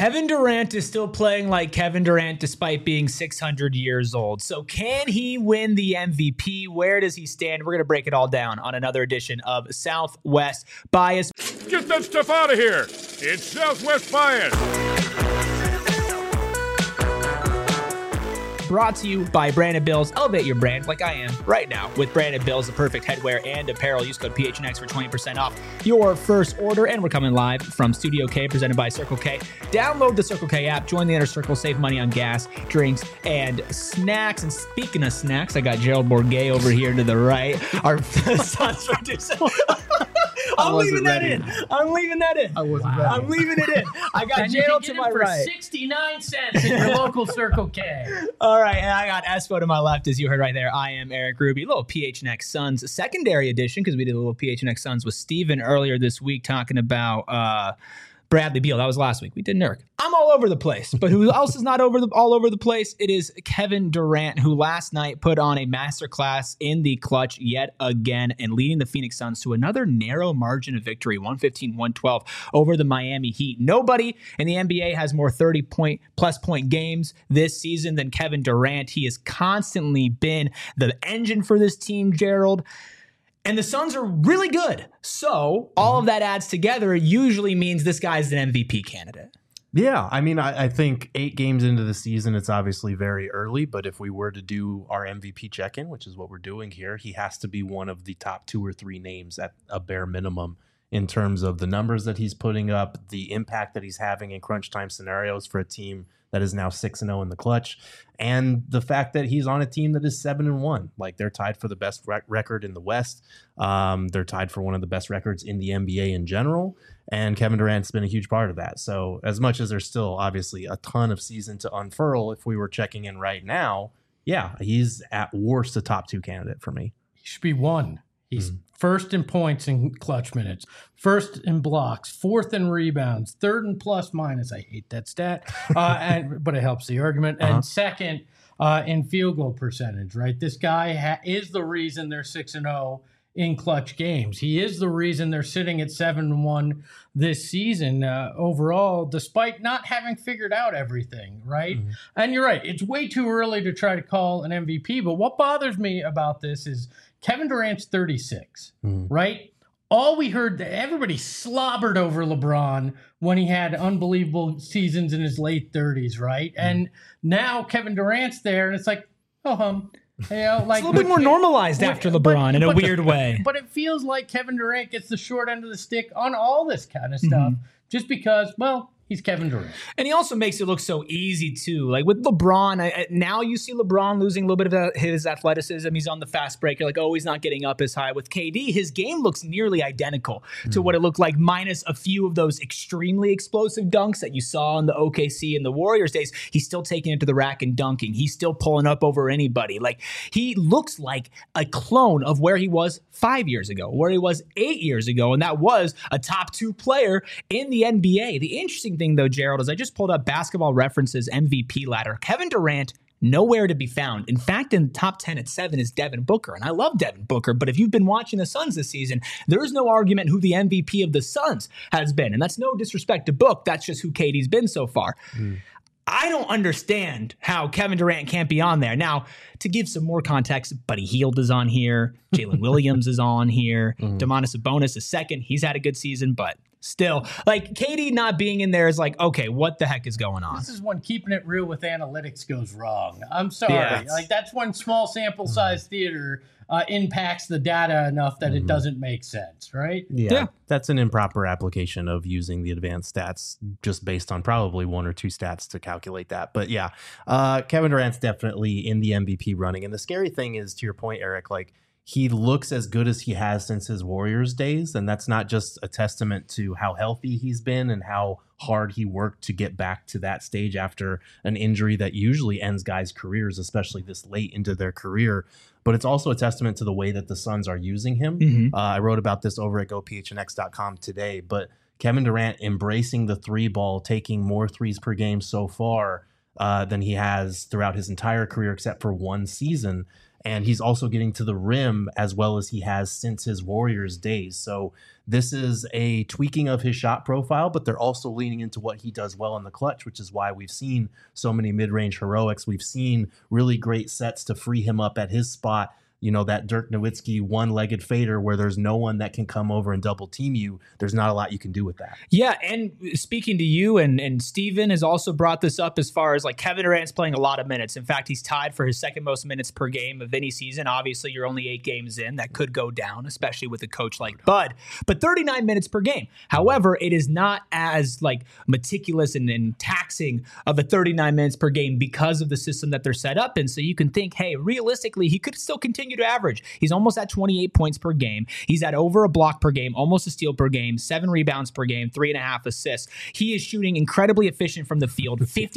Kevin Durant is still playing like Kevin Durant despite being 600 years old. So can he win the MVP? Where does he stand? We're going to break it all down on another edition of Southwest Bias. Get that stuff out of here. It's Southwest Bias. Brought to you by Brandon Bills. Elevate your brand like I am right now with Brandon Bills, the perfect headwear and apparel. Use code PHNX for 20% off your first order. And we're coming live from Studio K, presented by Circle K. Download the Circle K app, join the Inner Circle, save money on gas, drinks, and snacks. And speaking of snacks, I got Gerald Bourguet over here to the right. Our Suns producer. I'm leaving that in. I'm leaving it in. I got Gerald to my right. 69 cents in your local Circle K. All right, and I got Espo to my left, as you heard right there. I am Eric Ruby. A little PHNX Suns secondary edition, because we did a little PHNX Suns with Steven earlier this week talking about Bradley Beal. That was last week. We did Nurk. I'm all over the place, but who else is not all over the place? It is Kevin Durant, who last night put on a masterclass in the clutch yet again and leading the Phoenix Suns to another narrow margin of victory, 115-112 over the Miami Heat. Nobody in the NBA has more 30-plus point games this season than Kevin Durant. He has constantly been the engine for this team, Gerald. And the Suns are really good. So all of that adds together usually means this guy's an MVP candidate. Yeah, I mean, I think 8 games into the season, it's obviously very early. But if we were to do our MVP check-in, which is what we're doing here, he has to be one of the top 2 or 3 names at a bare minimum in terms of the numbers that he's putting up, the impact that he's having in crunch time scenarios for a team that is now 6-0 in the clutch, and the fact that he's on a team that is 7-1. Like, they're tied for the best record in the West. They're tied for one of the best records in the NBA in general, and Kevin Durant's been a huge part of that. So as much as there's still obviously a ton of season to unfurl, if we were checking in right now, yeah, he's at worst a top 2 candidate for me. He should be 1. He's first in points in clutch minutes, first in blocks, 4th in rebounds, 3rd in plus minus. I hate that stat, but it helps the argument. And 2nd in field goal percentage, right? This guy is the reason they're 6-0 in clutch games. He is the reason they're sitting at 7-1 this season overall, despite not having figured out everything, right? And you're right. It's way too early to try to call an MVP, but what bothers me about this is Kevin Durant's 36, right? All we heard, everybody slobbered over LeBron when he had unbelievable seasons in his late 30s, right? And now Kevin Durant's there, and it's like, like it's a little bit more normalized after LeBron in a weird way. But it feels like Kevin Durant gets the short end of the stick on all this kind of stuff, just because, well, he's Kevin Durant. And he also makes it look so easy, too. Like with LeBron, now you see LeBron losing a little bit of his athleticism. He's on the fast break. You're like, oh, he's not getting up as high. With KD, his game looks nearly identical to what it looked like, minus a few of those extremely explosive dunks that you saw in the OKC and the Warriors days. He's still taking it to the rack and dunking. He's still pulling up over anybody. Like, he looks like a clone of where he was 5 years ago, where he was 8 years ago, and that was a top 2 player in the NBA. The interesting thing, though, Gerald, is I just pulled up Basketball Reference's MVP ladder. Kevin Durant, nowhere to be found. In fact, in the top 10 at 7 is Devin Booker, and I love Devin Booker, but if you've been watching the Suns this season, there is no argument who the MVP of the Suns has been, and that's no disrespect to Book. That's just who KD's been so far. I don't understand how Kevin Durant can't be on there. Now, to give some more context, Buddy Hield is on here. Jalen Williams is on here. Domantas Sabonis is second. He's had a good season, but still, like, KD not being in there is like, okay, what the heck is going on? This is when keeping it real with analytics goes wrong. I'm sorry. Like, that's when small sample size theater impacts the data enough that it doesn't make sense, right? Yeah, that's an improper application of using the advanced stats just based on probably 1 or 2 stats to calculate that. But yeah, Kevin Durant's definitely in the MVP running. And the scary thing is, to your point, Eric, like, he looks as good as he has since his Warriors days. And that's not just a testament to how healthy he's been and how hard he worked to get back to that stage after an injury that usually ends guys' careers, especially this late into their career. But it's also a testament to the way that the Suns are using him. I wrote about this over at GoPHNX.com today. But Kevin Durant embracing the 3-ball, taking more threes per game so far than he has throughout his entire career, except for 1 season. and he's also getting to the rim as well as he has since his Warriors days. So this is a tweaking of his shot profile, but they're also leaning into what he does well in the clutch, which is why we've seen so many mid-range heroics. We've seen really great sets to free him up at his spot. You know, that Dirk Nowitzki one-legged fader where there's no one that can come over and double team you. There's not a lot you can do with that. Yeah, and speaking to you, and Steven has also brought this up as far as like Kevin Durant's playing a lot of minutes. In fact, he's tied for his second most minutes per game of any season. Obviously, you're only 8 games in. That could go down, especially with a coach like Bud. But 39 minutes per game. However, it is not as like meticulous and taxing of a 39 minutes per game because of the system that they're set up in. So you can think, hey, realistically, he could still continue to average. He's almost at 28 points per game. He's at over a block per game, almost a steal per game, 7 rebounds per game, 3.5 assists. He is shooting incredibly efficient from the field,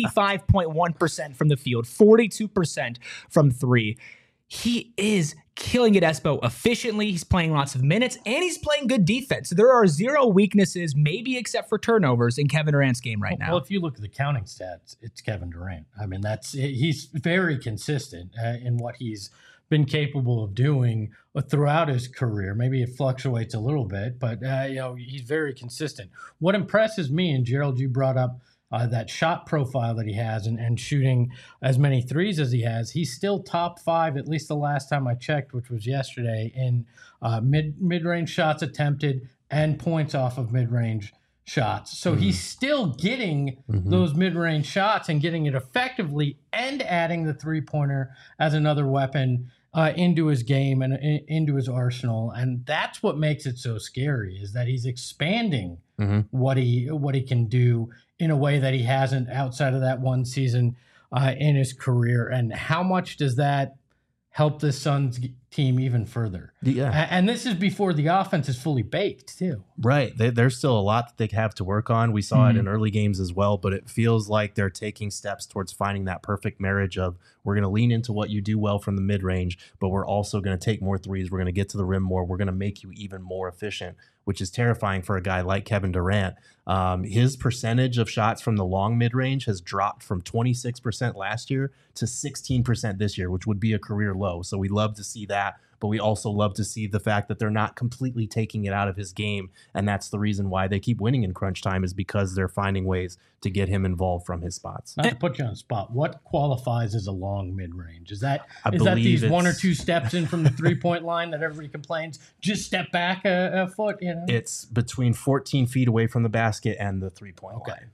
55.1% from the field, 42% from 3. He is killing it, Espo, efficiently. He's playing lots of minutes, and he's playing good defense. There are 0 weaknesses, maybe except for turnovers, in Kevin Durant's game right now. Well, if you look at the counting stats, it's Kevin Durant. I mean, he's very consistent in what he's been capable of doing throughout his career. Maybe it fluctuates a little bit, but he's very consistent. What impresses me, and Gerald, you brought up that shot profile that he has and shooting as many threes as he has, he's still top 5, at least the last time I checked, which was yesterday, in mid-range shots attempted and points off of mid-range shots. So he's still getting those mid-range shots and getting it effectively and adding the three-pointer as another weapon into his game and into his arsenal. And that's what makes it so scary, is that he's expanding what he can do in a way that he hasn't outside of that one season in his career. And how much does that help the Suns team even further? Yeah. And this is before the offense is fully baked too. Right. There's still a lot that they have to work on. We saw it in early games as well, but it feels like they're taking steps towards finding that perfect marriage of, we're going to lean into what you do well from the mid-range, but we're also going to take more threes. We're going to get to the rim more. We're going to make you even more efficient, which is terrifying for a guy like Kevin Durant. His percentage of shots from the long mid-range has dropped from 26% last year to 16% this year, which would be a career low. So we love to see that, but we also love to see the fact that they're not completely taking it out of his game. And that's the reason why they keep winning in crunch time, is because they're finding ways to get him involved from his spots. Not to put you on the spot, what qualifies as a long mid-range? Is that these 1 or 2 steps in from the three-point line that everybody complains, just step back a foot? It's between 14 feet away from the basket and the three-point line.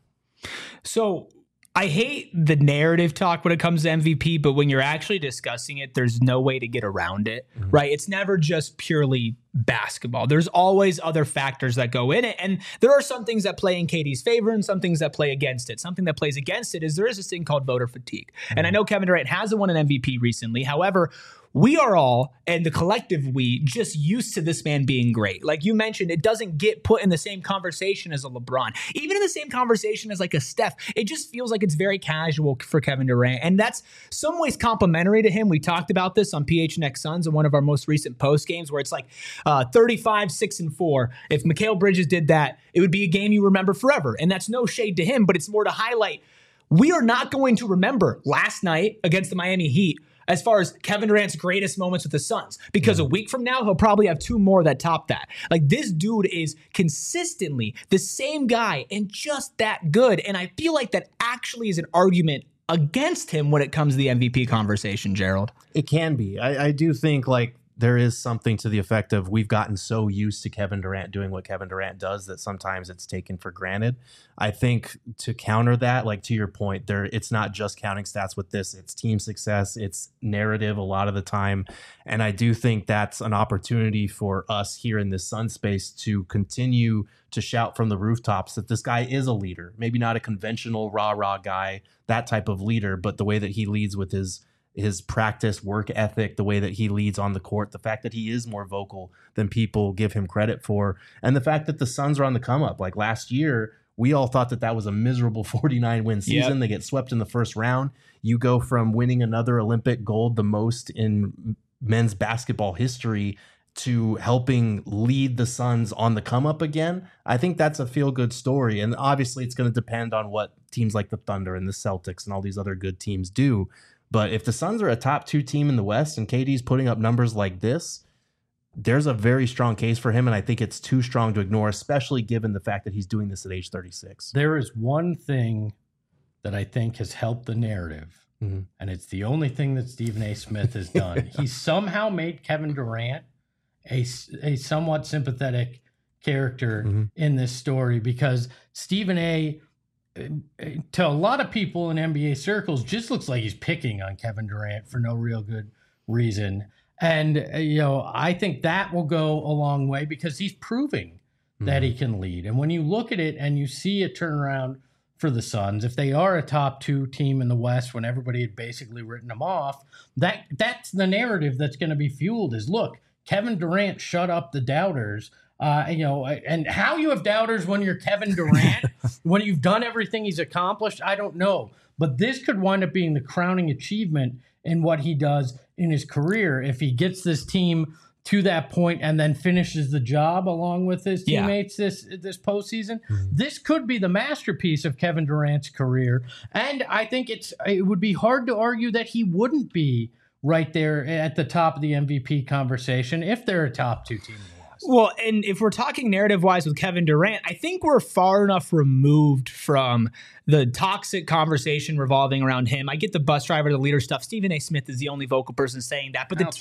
So I hate the narrative talk when it comes to MVP, but when you're actually discussing it, there's no way to get around it, right? It's never just purely basketball. There's always other factors that go in it. And there are some things that play in KD's favor and some things that play against it. Something that plays against it is there is this thing called voter fatigue. And I know Kevin Durant hasn't won an MVP recently. However, we are all, and the collective we, just used to this man being great. Like you mentioned, it doesn't get put in the same conversation as a LeBron. Even in the same conversation as like a Steph, it just feels like it's very casual for Kevin Durant. And that's some ways complimentary to him. We talked about this on PHNX Suns in one of our most recent post games, where it's like 35, 6, and 4. If Mikal Bridges did that, it would be a game you remember forever. And that's no shade to him, but it's more to highlight, we are not going to remember last night against the Miami Heat as far as Kevin Durant's greatest moments with the Suns, because a week from now, he'll probably have 2 more that top that. Like, this dude is consistently the same guy and just that good. And I feel like that actually is an argument against him when it comes to the MVP conversation, Gerald. It can be. I do think like there is something to the effect of, we've gotten so used to Kevin Durant doing what Kevin Durant does that sometimes it's taken for granted. I think to counter that, like to your point, it's not just counting stats with this, it's team success, it's narrative a lot of the time. And I do think that's an opportunity for us here in this Sun space to continue to shout from the rooftops that this guy is a leader. Maybe not a conventional rah-rah guy, that type of leader, but the way that he leads with his practice, work ethic, the way that he leads on the court, the fact that he is more vocal than people give him credit for, and the fact that the Suns are on the come up. Like last year, we all thought that was a miserable 49-win season. Yep. They get swept in the first round. You go from winning another Olympic gold, the most in men's basketball history, to helping lead the Suns on the come up again. I think that's a feel-good story. And obviously it's going to depend on what teams like the Thunder and the Celtics and all these other good teams do. But if the Suns are a top 2 team in the West and KD's putting up numbers like this, there's a very strong case for him, and I think it's too strong to ignore, especially given the fact that he's doing this at age 36. There is one thing that I think has helped the narrative, and it's the only thing that Stephen A. Smith has done. He somehow made Kevin Durant a somewhat sympathetic character in this story, because Stephen A., to a lot of people in NBA circles, just looks like he's picking on Kevin Durant for no real good reason. And, I think that will go a long way, because he's proving that he can lead. And when you look at it and you see a turnaround for the Suns, if they are a top 2 team in the West when everybody had basically written them off, that's the narrative that's going to be fueled is, look, Kevin Durant shut up the doubters. And how you have doubters when you're Kevin Durant, when you've done everything he's accomplished, I don't know. But this could wind up being the crowning achievement in what he does in his career if he gets this team to that point and then finishes the job along with his teammates this postseason. This could be the masterpiece of Kevin Durant's career. And I think it would be hard to argue that he wouldn't be right there at the top of the MVP conversation if they're a top 2 team in the West. Well, and if we're talking narrative-wise with Kevin Durant, I think we're far enough removed from the toxic conversation revolving around him. I get the bus driver, the leader stuff. Stephen A. Smith is the only vocal person saying that. But the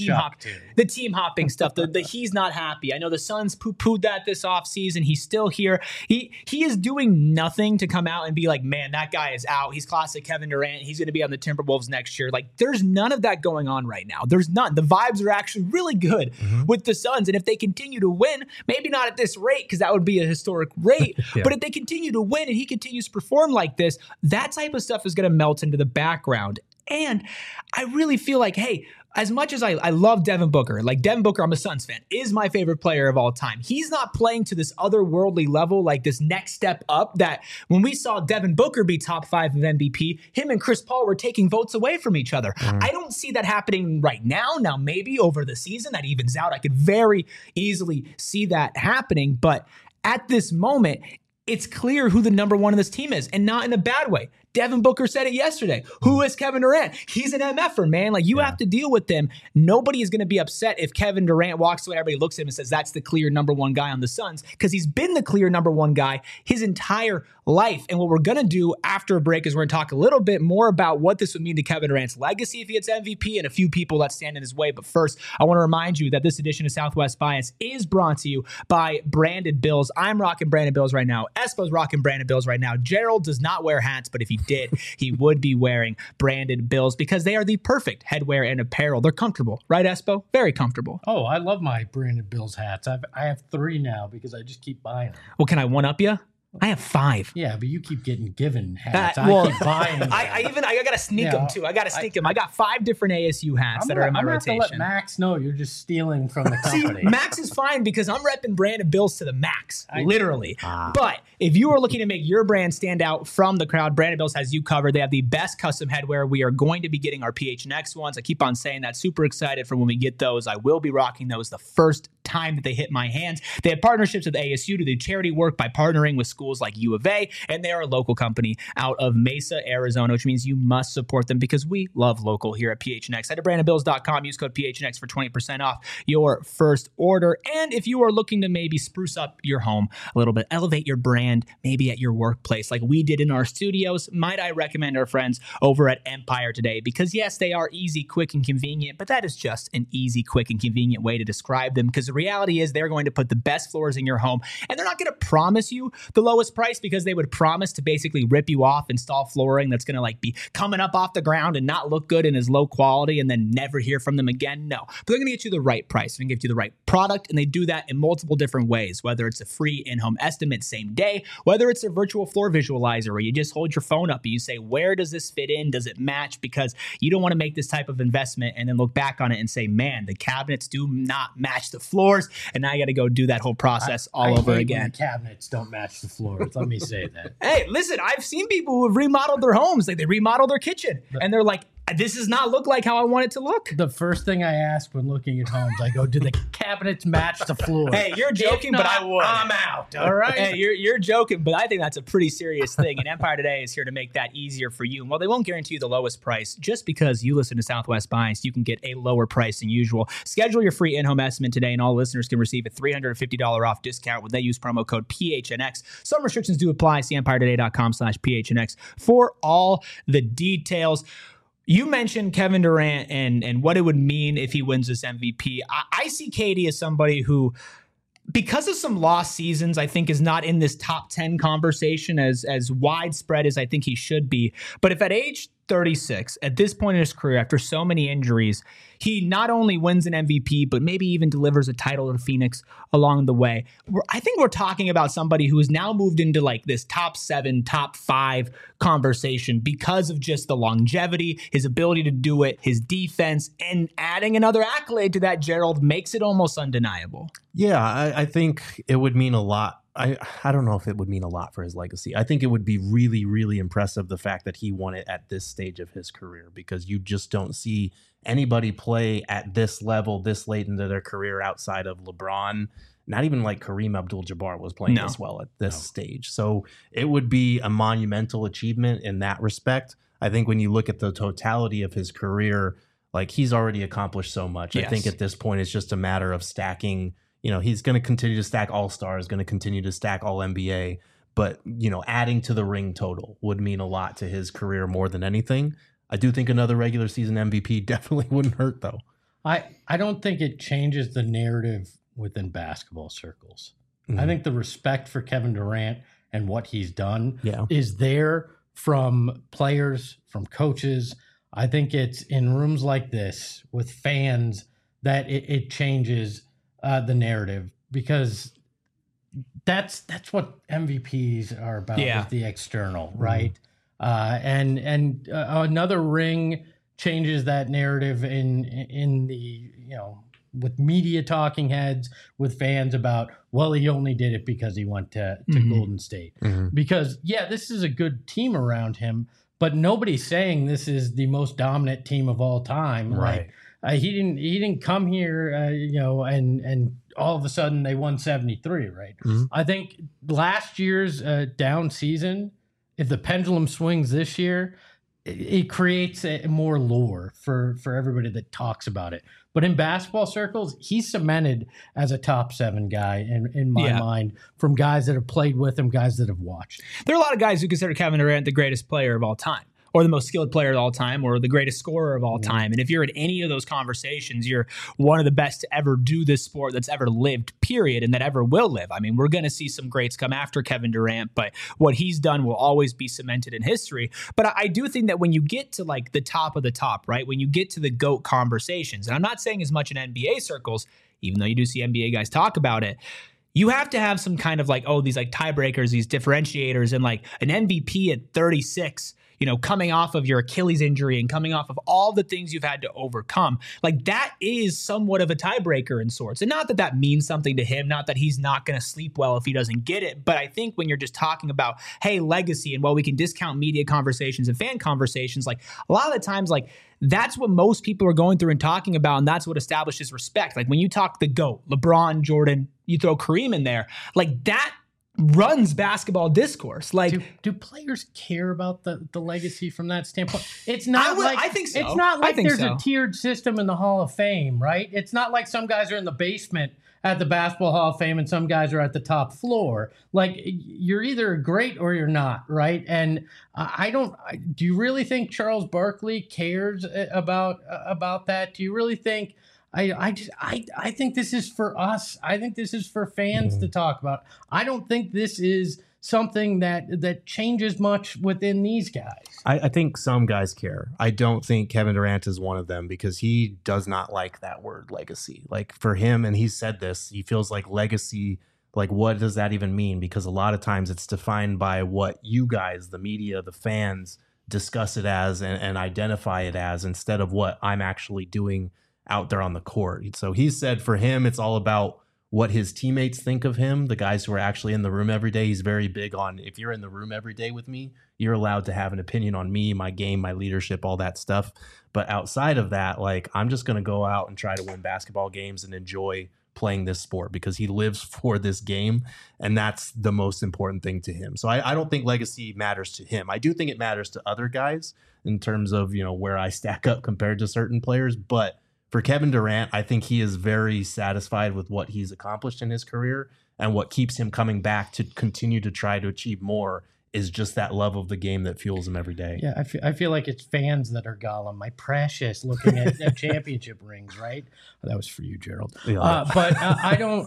team hopping stuff, the he's not happy. I know the Suns poo-pooed that this offseason. He's still here. He is doing nothing to come out and be like, man, that guy is out. He's classic Kevin Durant. He's going to be on the Timberwolves next year. Like, there's none of that going on right now. There's none. The vibes are actually really good with the Suns. And if they continue to win, maybe not at this rate, because that would be a historic rate, but if they continue to win and he continues to perform like this, that type of stuff is going to melt into the background. And I really feel like, hey, as much as I love Devin Booker, like Devin Booker, I'm a Suns fan, is my favorite player of all time. He's not playing to this otherworldly level, like this next step up that when we saw Devin Booker be top 5 of MVP, him and Chris Paul were taking votes away from each other. I don't see that happening right now. Now, maybe over the season that evens out. I could very easily see that happening. But at this moment, it's clear who the number 1 of this team is, and not in a bad way. Devin Booker said it yesterday. Who is Kevin Durant? He's an MFer, man. Like, you have to deal with them. Nobody is going to be upset if Kevin Durant walks away. Everybody looks at him and says, that's the clear number 1 guy on the Suns, because he's been the clear number 1 guy his entire life. And what we're going to do after a break is we're going to talk a little bit more about what this would mean to Kevin Durant's legacy if he gets MVP and a few people that stand in his way. But first, I want to remind you that this edition of Southwest Bias is brought to you by Branded Bills. I'm rocking Branded Bills right now. Espo's rocking Branded Bills right now. Gerald does not wear hats, but if he did, he would be wearing Branded Bills because they are the perfect headwear and apparel. They're comfortable, right, Espo? Very comfortable. Oh, I love my Branded Bills hats. I have 3 now because I just keep buying them. Well, can I one-up you? I have 5. Yeah, but you keep getting given hats. I keep buying them. I got to sneak them too. I got to sneak them. I got 5 different ASU hats that are in my rotation. I'm going to let Max know you're just stealing from the company. See, Max is fine because I'm repping Branded Bills to the max, literally. But if you are looking to make your brand stand out from the crowd, Branded Bills has you covered. They have the best custom headwear. We are going to be getting our PHNX ones. I keep on saying that. Super excited for when we get those. I will be rocking those the first time that they hit my hands. They have partnerships with ASU to do charity work by partnering with schools like U of A, and they are a local company out of Mesa, Arizona, which means you must support them because we love local here at PHNX. Head to brandedbills.com, use code PHNX for 20% off your first order. And if you are looking to maybe spruce up your home a little bit, elevate your brand, maybe at your workplace like we did in our studios, might I recommend our friends over at Empire today, because yes, they are easy, quick, and convenient, but that is just an easy, quick, and convenient way to describe them, because the reality is they're going to put the best floors in your home, and they're not going to promise you the lowest price because they would promise to basically rip you off, install flooring that's going to like be coming up off the ground and not look good and is low quality and then never hear from them again. No, but they're going to get you the right price. They're going to give you the right product, and they do that in multiple different ways, whether it's a free in-home estimate same day, whether it's a virtual floor visualizer where you just hold your phone up and you say, where does this fit in? Does it match? Because you don't want to make this type of investment and then look back on it and say, man, the cabinets do not match the floors, and now I got to go do that whole process all over again. The cabinets don't match the floors. Let me say that. Hey, listen, I've seen people who have remodeled their homes. Like, they remodel their kitchen and they're like, this does not look like how I want it to look. The first thing I ask when looking at homes, I go, do the cabinets match the floor? Hey, you're joking, but I would. I'm out. All right. Hey, you're joking, but I think that's a pretty serious thing. And Empire Today is here to make that easier for you. And while they won't guarantee you the lowest price, just because you listen to Southwest Bias, you can get a lower price than usual. Schedule your free in-home estimate today, and all listeners can receive a $350 off discount when they use promo code PHNX. Some restrictions do apply. See EmpireToday.com/PHNX for all the details. You mentioned Kevin Durant and what it would mean if he wins this MVP. I see KD as somebody who, because of some lost seasons, I think is not in this top 10 conversation as widespread as I think he should be. But if at age 36, at this point in his career, after so many injuries, he not only wins an MVP, but maybe even delivers a title to Phoenix along the way. I think we're talking about somebody who has now moved into like this top 7, top 5 conversation because of just the longevity, his ability to do it, his defense, and adding another accolade to that, Gerald, makes it almost undeniable. Yeah, I think it would mean a lot. I don't know if it would mean a lot for his legacy. I think it would be really, really impressive, the fact that he won it at this stage of his career, because you just don't see anybody play at this level this late into their career outside of LeBron. Not even like Kareem Abdul-Jabbar was playing this well at this stage. So it would be a monumental achievement in that respect. I think when you look at the totality of his career, like, he's already accomplished so much. Yes. I think at this point it's just a matter of stacking. You know, he's going to continue to stack All-Stars, going to continue to stack All-NBA, but, you know, adding to the ring total would mean a lot to his career more than anything. I do think another regular season MVP definitely wouldn't hurt, though. I don't think it changes the narrative within basketball circles. I think the respect for Kevin Durant and what he's done is there from players, from coaches. I think it's in rooms like this with fans that it changes the narrative, because that's what MVPs are about, is the external, right? And another ring changes that narrative in the, you know, with media talking heads, with fans about, well, he only did it because he went to Golden State. Because, this is a good team around him, but nobody's saying this is the most dominant team of all time. Right. He didn't come here, and all of a sudden they won 73, right? I think last year's down season, if the pendulum swings this year, it creates more lore for everybody that talks about it. But in basketball circles, he's cemented as a top 7 guy in my mind, from guys that have played with him, guys that have watched. There are a lot of guys who consider Kevin Durant the greatest player of all time, or the most skilled player of all time, or the greatest scorer of all time. And if you're in any of those conversations, you're one of the best to ever do this sport that's ever lived, period, and that ever will live. I mean, we're going to see some greats come after Kevin Durant, but what he's done will always be cemented in history. But I do think that when you get to like the top of the top, right, when you get to the GOAT conversations, and I'm not saying as much in NBA circles, even though you do see NBA guys talk about it, you have to have some kind of like, these like tiebreakers, these differentiators, and like an MVP at 36, you know, coming off of your Achilles injury and coming off of all the things you've had to overcome, like that is somewhat of a tiebreaker in sorts. And not that that means something to him, not that he's not going to sleep well if he doesn't get it. But I think when you're just talking about, hey, legacy, and while we can discount media conversations and fan conversations, like a lot of the times, like that's what most people are going through and talking about. And that's what establishes respect. Like when you talk the GOAT, LeBron, Jordan, you throw Kareem in there, like that runs basketball discourse. Like, do players care about the legacy from that standpoint? It's not I think so. It's not like there's a tiered system in the Hall of Fame, right? It's not like some guys are in the basement at the Basketball Hall of Fame and some guys are at the top floor. Like, you're either great or you're not, right? And do you really think Charles Barkley cares about that? Do you really think? I think this is for us. I think this is for fans to talk about. I don't think this is something that changes much within these guys. I think some guys care. I don't think Kevin Durant is one of them, because he does not like that word legacy. Like for him, and he said this, he feels like legacy, like what does that even mean? Because a lot of times it's defined by what you guys, the media, the fans, discuss it as and identify it as, instead of what I'm actually doing out there on the court. So he said for him, it's all about what his teammates think of him, the guys who are actually in the room every day. He's very big on, if you're in the room every day with me, you're allowed to have an opinion on me, my game, my leadership, all that stuff. But outside of that, like, I'm just going to go out and try to win basketball games and enjoy playing this sport, because he lives for this game, and that's the most important thing to him. So I don't think legacy matters to him. I do think it matters to other guys in terms of, you know, where I stack up compared to certain players. But for Kevin Durant, I think he is very satisfied with what he's accomplished in his career, and what keeps him coming back to continue to try to achieve more is just that love of the game that fuels him every day. Yeah, I feel like it's fans that are Gollum, my precious, looking at championship rings, right? That was for you, Gerald. Yeah. But I don't.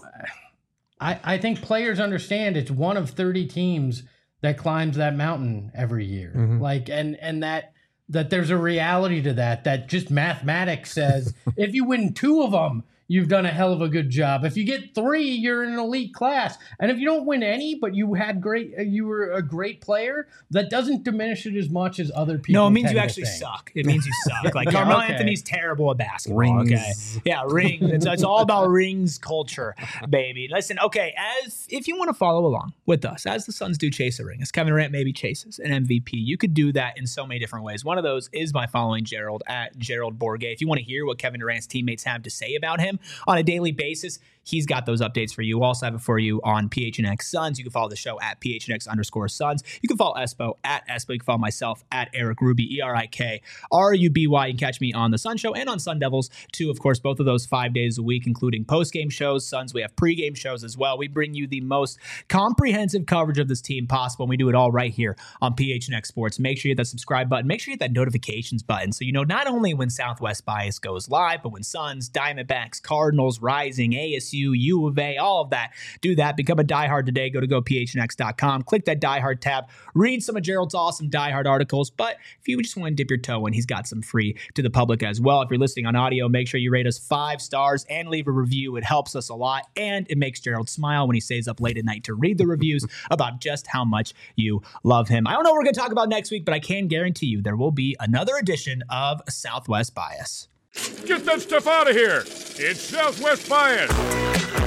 I think players understand it's one of 30 teams that climbs that mountain every year. Mhm. Like, and that there's a reality to that just mathematics says if you win 2 of them, you've done a hell of a good job. If you get 3, you're in an elite class. And if you don't win any, but you were a great player, that doesn't diminish it as much as other people. No, it means tend you to actually think. suck. It means you suck. Like, Yeah, Carmelo okay. Anthony's terrible at basketball. Rings. Okay. Yeah, rings. It's all about rings culture, baby. Listen, okay, if you want to follow along with us, as the Suns do chase a ring, as Kevin Durant maybe chases an MVP, you could do that in so many different ways. One of those is by following Gerald at Gerald Bourget. If you want to hear what Kevin Durant's teammates have to say about him on a daily basis, he's got those updates for you. We'll also have it for you on PHNX Suns. You can follow the show at PHNX_Suns. You can follow Espo at Espo. You can follow myself at Eric Ruby, ErikRuby. You can catch me on the Sun Show and on Sun Devils too. Of course, both of those 5 days a week, including post-game shows. Suns, we have pre-game shows as well. We bring you the most comprehensive coverage of this team possible, and we do it all right here on PHNX Sports. Make sure you hit that subscribe button. Make sure you hit that notifications button so you know not only when Southwest Bias goes live, but when Suns, Diamondbacks, Cardinals, Rising, ASU, U of A, all of that. Do that. Become a diehard today. Go to gophnx.com. Click that diehard tab. Read some of Gerald's awesome diehard articles. But if you just want to dip your toe in, he's got some free to the public as well. If you're listening on audio, make sure you rate us 5 stars and leave a review. It helps us a lot, and it makes Gerald smile when he stays up late at night to read the reviews about just how much you love him. I don't know what we're going to talk about next week, but I can guarantee you there will be another edition of Southwest Bias. Get that stuff out of here. It's Southwest Bias.